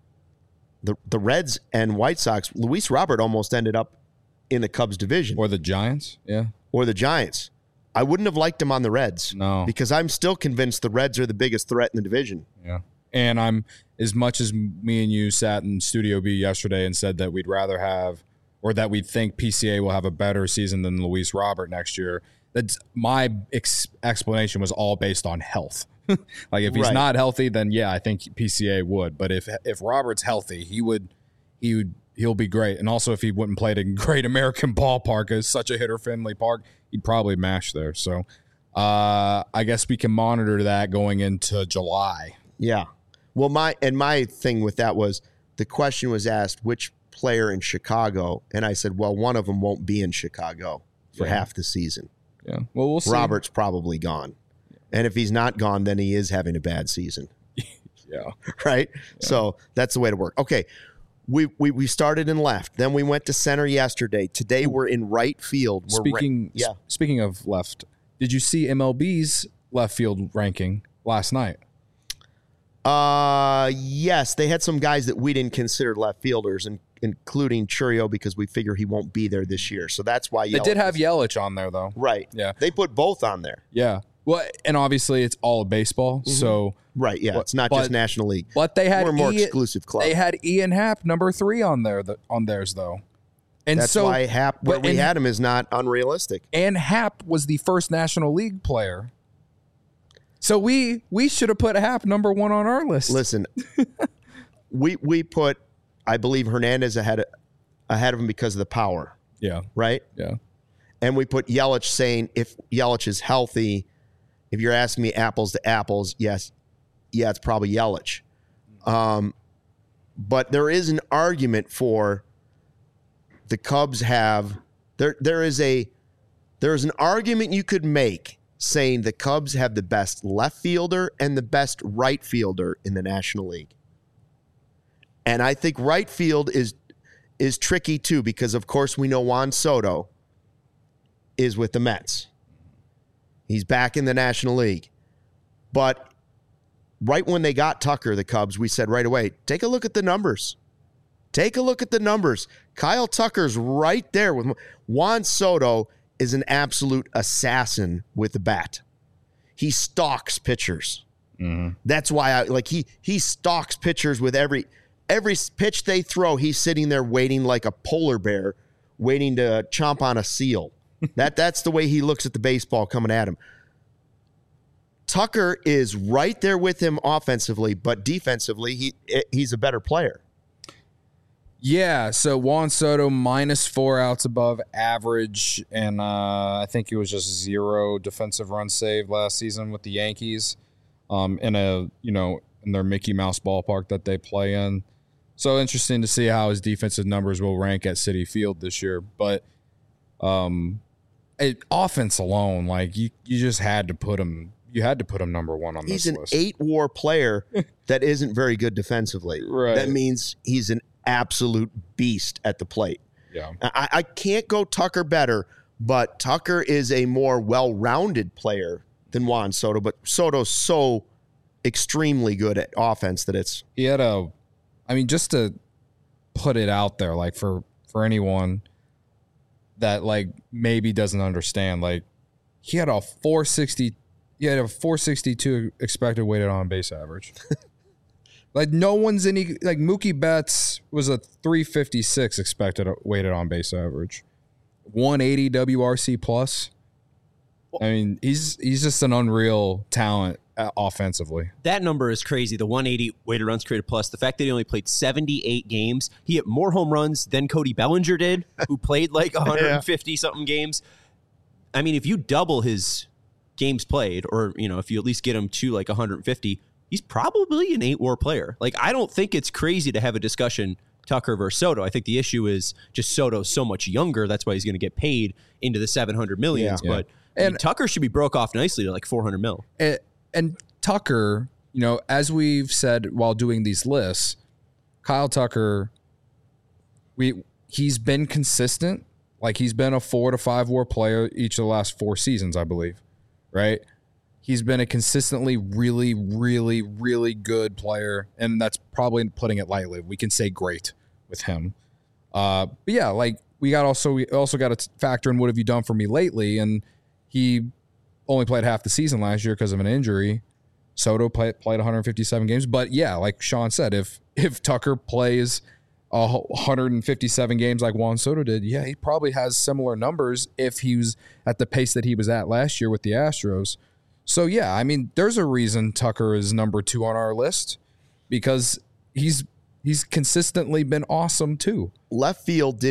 the Reds and White Sox, Luis Robert almost ended up in the Cubs division. Or the Giants? Yeah. Or the Giants. I wouldn't have liked him on the Reds. No. Because I'm still convinced the Reds are the biggest threat in the division. Yeah. And I'm, as much as me and you sat in Studio B yesterday and said that we'd rather have, or that we think PCA will have a better season than Luis Robert next year, that's my explanation was all based on health. Like if he's not healthy, then yeah, I think PCA would. But if Robert's healthy, he'll be great. And also if he wouldn't play at a great American ballpark, it's such a hitter-friendly park, he'd probably mash there. So I guess we can monitor that going into July. Yeah. Well, my thing with that was the question was asked, which player in Chicago? And I said, well, one of them won't be in Chicago for half the season. Yeah. Well, we'll see. Robert's probably gone. And if he's not gone, then he is having a bad season. Yeah. Right? Yeah. So that's the way to work. Okay. We started in left. Then we went to center yesterday. Today we're in right field. Speaking of left, did you see MLB's left field ranking last night? Yes. They had some guys that we didn't consider left fielders, including Churio, because we figure he won't be there this year. So that's why they did have Yelich on there, though. Right. Yeah. They put both on there. Yeah. Well, and obviously it's all baseball, so right, yeah, it's not just National League. But they had we're a more exclusive club. They had Ian Happ number 3 on theirs though, and that's so why Happ where we had him is not unrealistic. And Happ was the first National League player, so we should have put Happ number 1 on our list. Listen, we put, I believe, Hernandez ahead of him because of the power. Yeah. right? Yeah. And we put Yelich saying if Yelich is healthy, if you're asking me apples to apples, yes, yeah, it's probably Yelich. But there is an argument for the Cubs have there is an argument you could make saying the Cubs have the best left fielder and the best right fielder in the National League. And I think right field is tricky too, because of course we know Juan Soto is with the Mets. He's back in the National League. But right when they got Tucker, the Cubs, we said right away, take a look at the numbers. Take a look at the numbers. Kyle Tucker's right there with Juan Soto is an absolute assassin with the bat. He stalks pitchers. Mm-hmm. That's why he stalks pitchers with every pitch they throw. He's sitting there waiting like a polar bear, waiting to chomp on a seal. That's the way he looks at the baseball coming at him. Tucker is right there with him offensively, but defensively, he's a better player. Yeah, so Juan Soto -4 outs above average, and I think it was just 0 defensive runs saved last season with the Yankees, in their Mickey Mouse ballpark that they play in. So interesting to see how his defensive numbers will rank at Citi Field this year. But offense alone, like you just had to put him. You had to put him number one on this list. He's an 8-WAR player that isn't very good defensively. Right. That means he's an absolute beast at the plate. Yeah. I can't go Tucker better, but Tucker is a more well-rounded player than Juan Soto, but Soto's so extremely good at offense that it's... He had just to put it out there, like for anyone that like maybe doesn't understand, like he had a 462 expected weighted on base average. Like no one's like Mookie Betts was a 356 expected weighted on base average, 180 WRC plus. I mean, he's just an unreal talent offensively. That number is crazy. The 180 weighted runs created plus. The fact that he only played 78 games, he hit more home runs than Cody Bellinger did, who played like 150 something games. I mean, if you double his games played, or if you at least get him to like 150, he's probably an 8-WAR player. Like, I don't think it's crazy to have a discussion Tucker versus Soto. I think the issue is just Soto's so much younger. That's why he's going to get paid into the $700 million. Yeah. But I mean, Tucker should be broke off nicely to like $400 million. And Tucker, as we've said while doing these lists, Kyle Tucker, he's been consistent. Like he's been a 4 to 5 WAR player each of the last 4 seasons, I believe. Right? He's been a consistently really, really, really good player, and that's probably putting it lightly. We can say great with him. But yeah, like we also got to factor in what have you done for me lately, and he only played half the season last year because of an injury. Soto played 157 games, but yeah, like Sean said, if Tucker plays 157 games like Juan Soto did, yeah, he probably has similar numbers if he was at the pace that he was at last year with the Astros. So, yeah, I mean, there's a reason Tucker is number 2 on our list because he's consistently been awesome, too. Left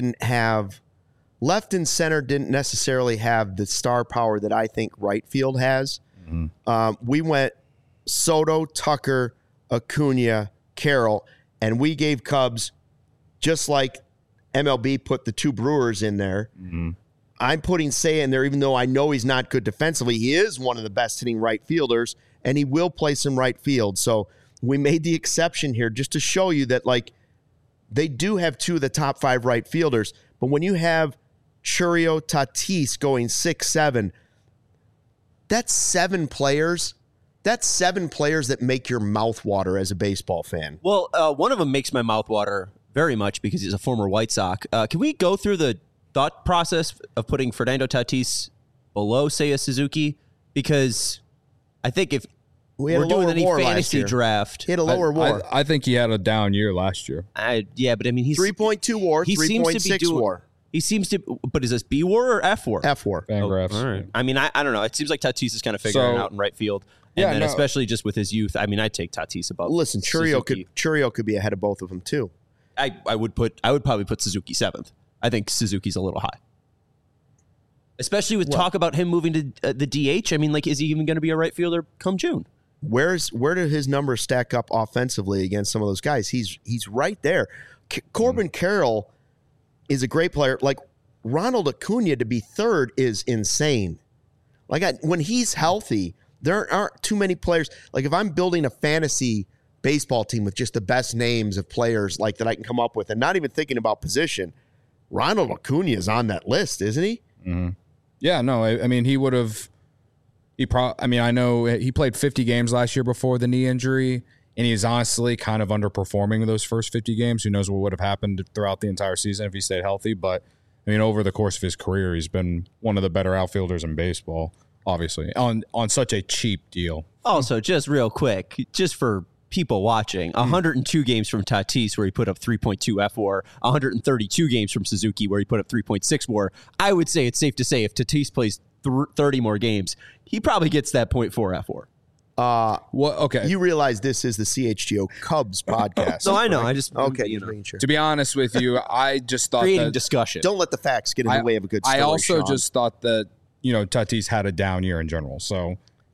and center didn't necessarily have the star power that I think right field has. Mm-hmm. We went Soto, Tucker, Acuna, Carroll, and we gave Cubs, just like MLB put the 2 Brewers in there. Mm-hmm. I'm putting Seiya in there, even though I know he's not good defensively. He is one of the best hitting right fielders, and he will play some right field. So we made the exception here just to show you that, like, they do have 2 of the top 5 right fielders. But when you have Chourio, Tatis going 6-7, that's 7 players. That's 7 players that make your mouth water as a baseball fan. Well, one of them makes my mouth water very much because he's a former White Sox. Can we go through the thought process of putting Fernando Tatis below Seiya Suzuki? Because I think if we're doing any fantasy draft, he had a lower WAR. I think he had a down year last year. Yeah, but I mean, he's 3.2 WAR, 3.6 WAR. He seems to, but is this B WAR or F WAR? F WAR. Fangraphs. All right. I mean, I don't know. It seems like Tatis is kind of figuring out in right field. And then especially just with his youth, I mean, I'd take Tatis above. Listen, Chourio could be ahead of both of them too. I would probably put Suzuki 7th. I think Suzuki's a little high. Especially with talk about him moving to the DH. I mean, like, is he even going to be a right fielder come June? Where do his numbers stack up offensively against some of those guys? He's right there. Corbin Carroll is a great player. Like, Ronald Acuna to be third is insane. Like, when he's healthy, there aren't too many players. Like, if I'm building a fantasy baseball team with just the best names of players like that I can come up with and not even thinking about position, Ronald Acuna is on that list, isn't he? Mm-hmm. Yeah, no, I mean, he would have. I know he played 50 games last year before the knee injury, and he's honestly kind of underperforming those first 50 games. Who knows what would have happened throughout the entire season if he stayed healthy? But I mean, over the course of his career, he's been one of the better outfielders in baseball. Obviously, on such a cheap deal. Also, just real quick, just for people watching, 102 games from Tatis where he put up 3.2 FWAR, 132 games from Suzuki where he put up 3.6 WAR. I would say it's safe to say if Tatis plays 30 more games, he probably gets that 0.4 FWAR. Okay. You realize this is the CHGO Cubs podcast. No, I know. I just To be honest with you, I just thought creating that discussion. Don't let the facts get in the way of a good story. I also Sean. just thought that Tatis had a down year in general, so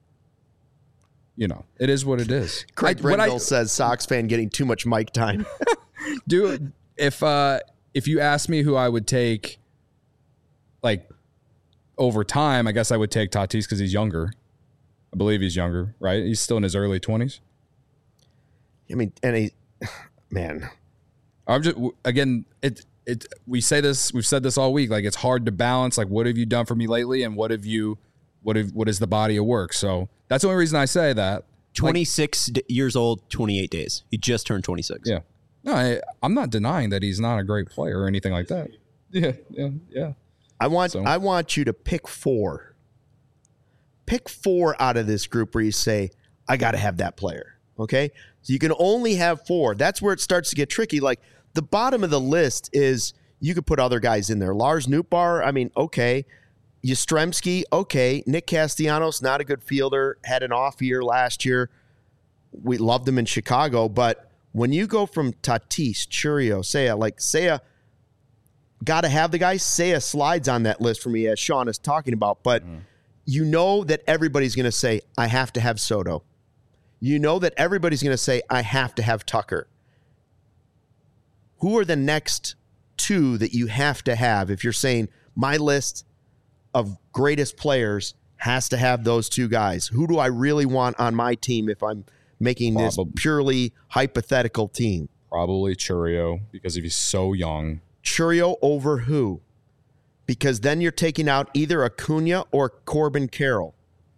it is what it is. Craig Brendel says Sox fan getting too much mic time. Dude, if you ask me who I would take, like, over time, I guess I would take Tatis because he's younger. I believe he's younger, right? He's still in his early 20s. I mean, man. I'm just, again, we've said this all week. Like, it's hard to balance. Like, what have you done for me lately, and what is the body of work? So that's the only reason I say that. 26 years old, 28 days. He just turned 26. Yeah. No, I'm not denying that he's not a great player or anything like that. Yeah. I want you to pick four. Pick four out of this group where you say, I got to have that player. Okay? So you can only have four. That's where it starts to get tricky. Like, the bottom of the list is you could put other guys in there. Lars Nootbaar, I mean, okay. Yastrzemski, okay. Nick Castellanos, not a good fielder, had an off year last year. We loved him in Chicago. But when you go from Tatis, Chourio, Seiya, got to have the guy. Seiya slides on that list for me, as Sean is talking about. But you know that everybody's going to say, I have to have Soto. You know that everybody's going to say, I have to have Tucker. Who are the next two that you have to have if you're saying my list of greatest players has to have those two guys? Who do I really want on my team if I'm making this purely hypothetical team? Probably Chourio, because if he's so young. Chourio over who? Because then you're taking out either Acuna or Corbin Carroll.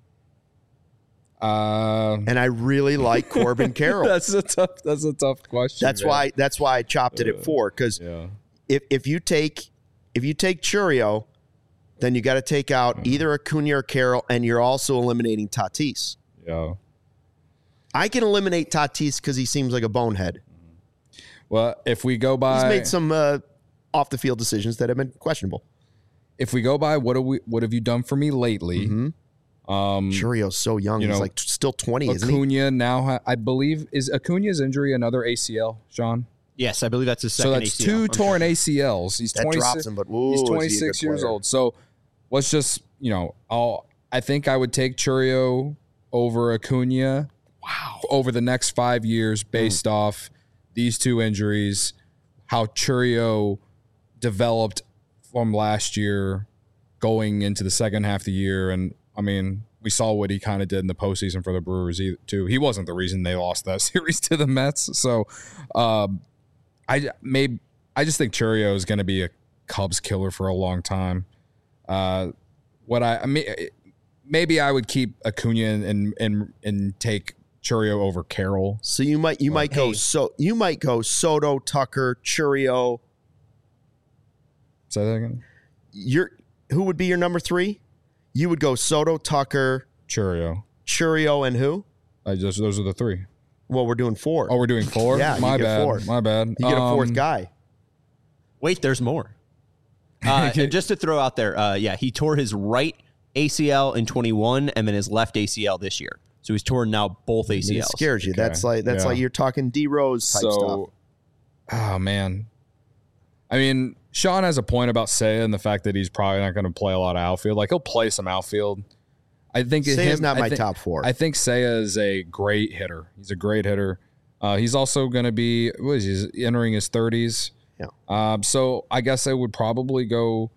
And I really like Corbin Carroll. That's a tough question. That's why I chopped it at four. Because if you take Chourio, then you got to take out either Acuna or Carroll, and you're also eliminating Tatis. Yeah. I can eliminate Tatis because he seems like a bonehead. Well, if we go by, he's made some off the field decisions that have been questionable. If we go by what have you done for me lately? Mm-hmm. Chourio's so young. He's like still 20, isn't he? Acuna now, I believe, is Acuna's injury another ACL, Sean? Yes, I believe that's his second ACL. So that's two torn ACLs. He's 26, drops him, but he's 26 years old. So let's just, I think I would take Chourio over Acuna. Wow. Over the next 5 years based off these two injuries, how Chourio developed from last year going into the second half of the year. And, I mean, we saw what he kind of did in the postseason for the Brewers, too. He wasn't the reason they lost that series to the Mets. So I just think Chourio is going to be a Cubs killer for a long time. Maybe I would keep Acuna and take Chourio over Carroll. So you might go Soto, Tucker, Chourio. Say that again. Who would be your number three? You would go Soto, Tucker, Chourio, and who? Those are the three. Well, we're doing four. Oh, we're doing four? Yeah, My bad. Four. My bad. You get a fourth guy. Wait, there's more. And just to throw out there, he tore his right ACL in 21 and then his left ACL this year. So he's torn now both ACLs. It scares you. Okay. That's like you're talking D Rose type stuff. Oh man. I mean, Sean has a point about Seiya and the fact that he's probably not going to play a lot of outfield. Like, he'll play some outfield. I think Seiya's not my top 4. I think Seiya is a great hitter. He's a great hitter. He's also going to be, he's entering his 30s. Yeah. So I guess I would probably go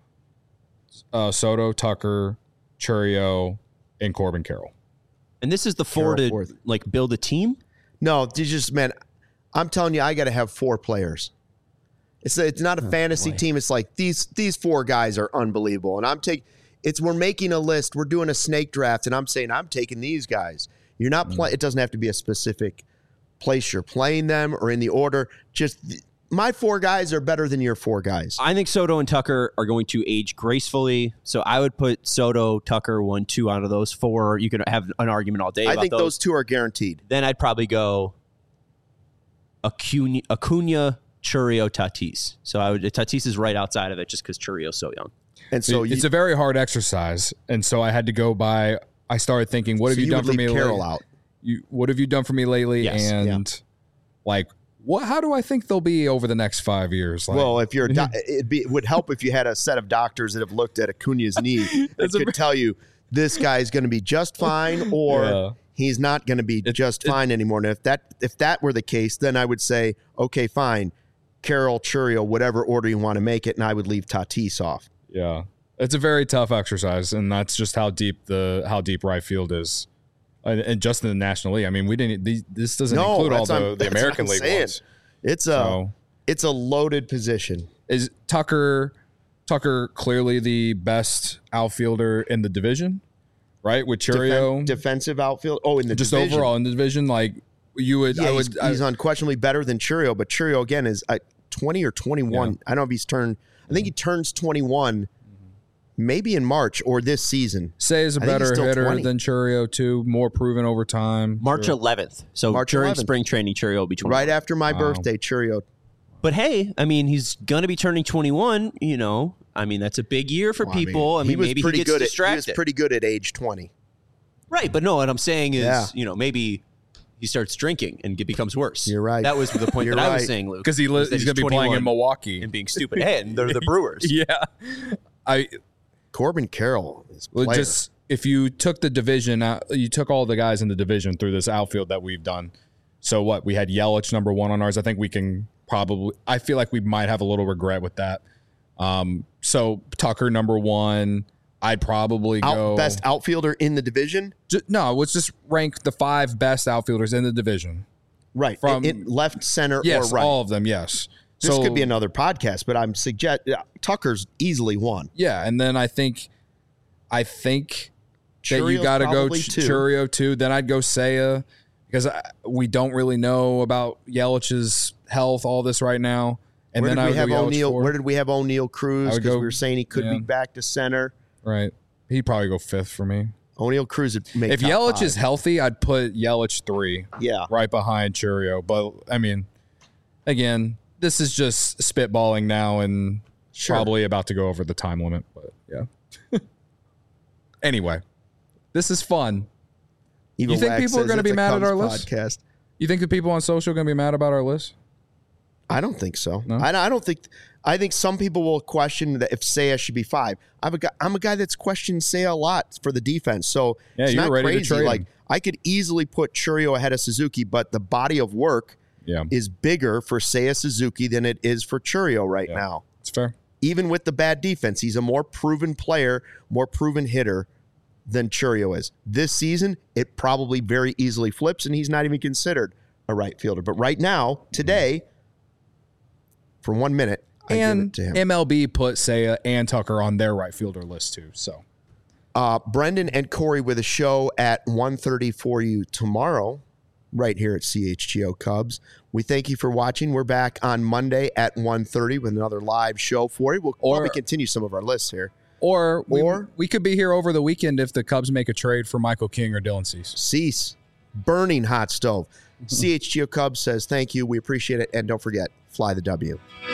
Soto, Tucker, Chourio, and Corbin Carroll. And this is the 4 to fourth. like build a team? No, man, I'm telling you, I got to have 4 players. It's not a fantasy team. It's like these 4 guys are unbelievable. And we're making a list. We're doing a snake draft, and I'm saying I'm taking these guys. You're not playing. It doesn't have to be a specific place you're playing them or in the order. Just my 4 guys are better than your 4 guys. I think Soto and Tucker are going to age gracefully. So I would put Soto, Tucker, 1, 2 out of those 4. You can have an argument all day about I think those 2 are guaranteed. Then I'd probably go Acuna, Chourio, Tatis. So Tatis is right outside of it just because Chourio's so young. And so it's a very hard exercise. And so I had to go by, I started thinking, what have you done for me Carroll lately? out. What have you done for me lately? Yes. And like, how do I think they'll be over the next 5 years? Like, well, if you're, it would help if you had a set of doctors that have looked at Acuna's knee that could tell you this guy's going to be just fine or he's not going to be just fine anymore. And if that were the case, then I would say, okay, fine, Carroll, Chourio, whatever order you want to make it, and I would leave Tatis off. Yeah, it's a very tough exercise, and that's just how deep right field is. And just in the National League, I mean, this doesn't include all the American League ones. It's a loaded position. Is Tucker clearly the best outfielder in the division, right? With Chourio, defensive outfield. Oh, in the just division. Overall in the division, like you would. Yeah, he's unquestionably better than Chourio, but Chourio again is 20 or 21. Yeah. I don't know if he's turned. I think he turns 21. Maybe in March or this season. Say is a better hitter than Chourio too, more proven over time. March 11th. So during spring training, Chourio will be 21. Right after my birthday, Chourio. But hey, I mean, he's going to be turning 21, you know. I mean, that's a big year for people. I mean, maybe he gets distracted. He was pretty good at age 20. Right, but no, what I'm saying is, you know, maybe he starts drinking and it becomes worse. You're right. That was the point that I was saying, Luke. Because he's going to be playing in Milwaukee. And being stupid. Hey, and they're the Brewers. Yeah. Corbin Carroll is just if you took the division out, you took all the guys in the division through this outfield that we've done. So what? We had Yelich number 1 on ours. I think we can probably. I feel like we might have a little regret with that. So Tucker number 1. I'd probably go best outfielder in the division. Let's just rank the 5 best outfielders in the division. Right, from left, center, or right. All of them. Yes. This could be another podcast, but I'm Tucker's easily 1. Yeah, and then I think that you got to go Chourio 2. Then I'd go Seiya because we don't really know about Yelich's health, all this right now. And where then did we have O'Neal Cruz? Because we were saying he could be back to center. Right, he'd probably go 5th for me. O'Neal Cruz would make. If Yelich is healthy, I'd put Yelich 3. Yeah, right behind Chourio. But I mean, again. This is just spitballing now and probably about to go over the time limit. But yeah. Anyway, this is fun. You think people are going to be mad at our list? You think the people on social are going to be mad about our list? I don't think so. No? I don't think. I think some people will question that if Seiya should be 5. I'm a guy that's questioned Seiya a lot for the defense. So it's not ready crazy. To trade him. I could easily put Chourio ahead of Suzuki, but the body of work is bigger for Seiya Suzuki than it is for Chourio right now. It's fair. Even with the bad defense, he's a more proven player, more proven hitter than Chourio is. This season, it probably very easily flips, and he's not even considered a right fielder. But right now, today, for 1 minute, I give it to him. MLB put Seiya and Tucker on their right fielder list too. So, Brendan and Corey with a show at 1:30 for you tomorrow, right here at CHGO Cubs. We thank you for watching. We're back on Monday at 1:30 with another live show for you. We'll probably continue some of our lists here. Or we could be here over the weekend if the Cubs make a trade for Michael King or Dylan Cease. Cease. Burning hot stove. CHGO Cubs says thank you. We appreciate it. And don't forget, fly the W.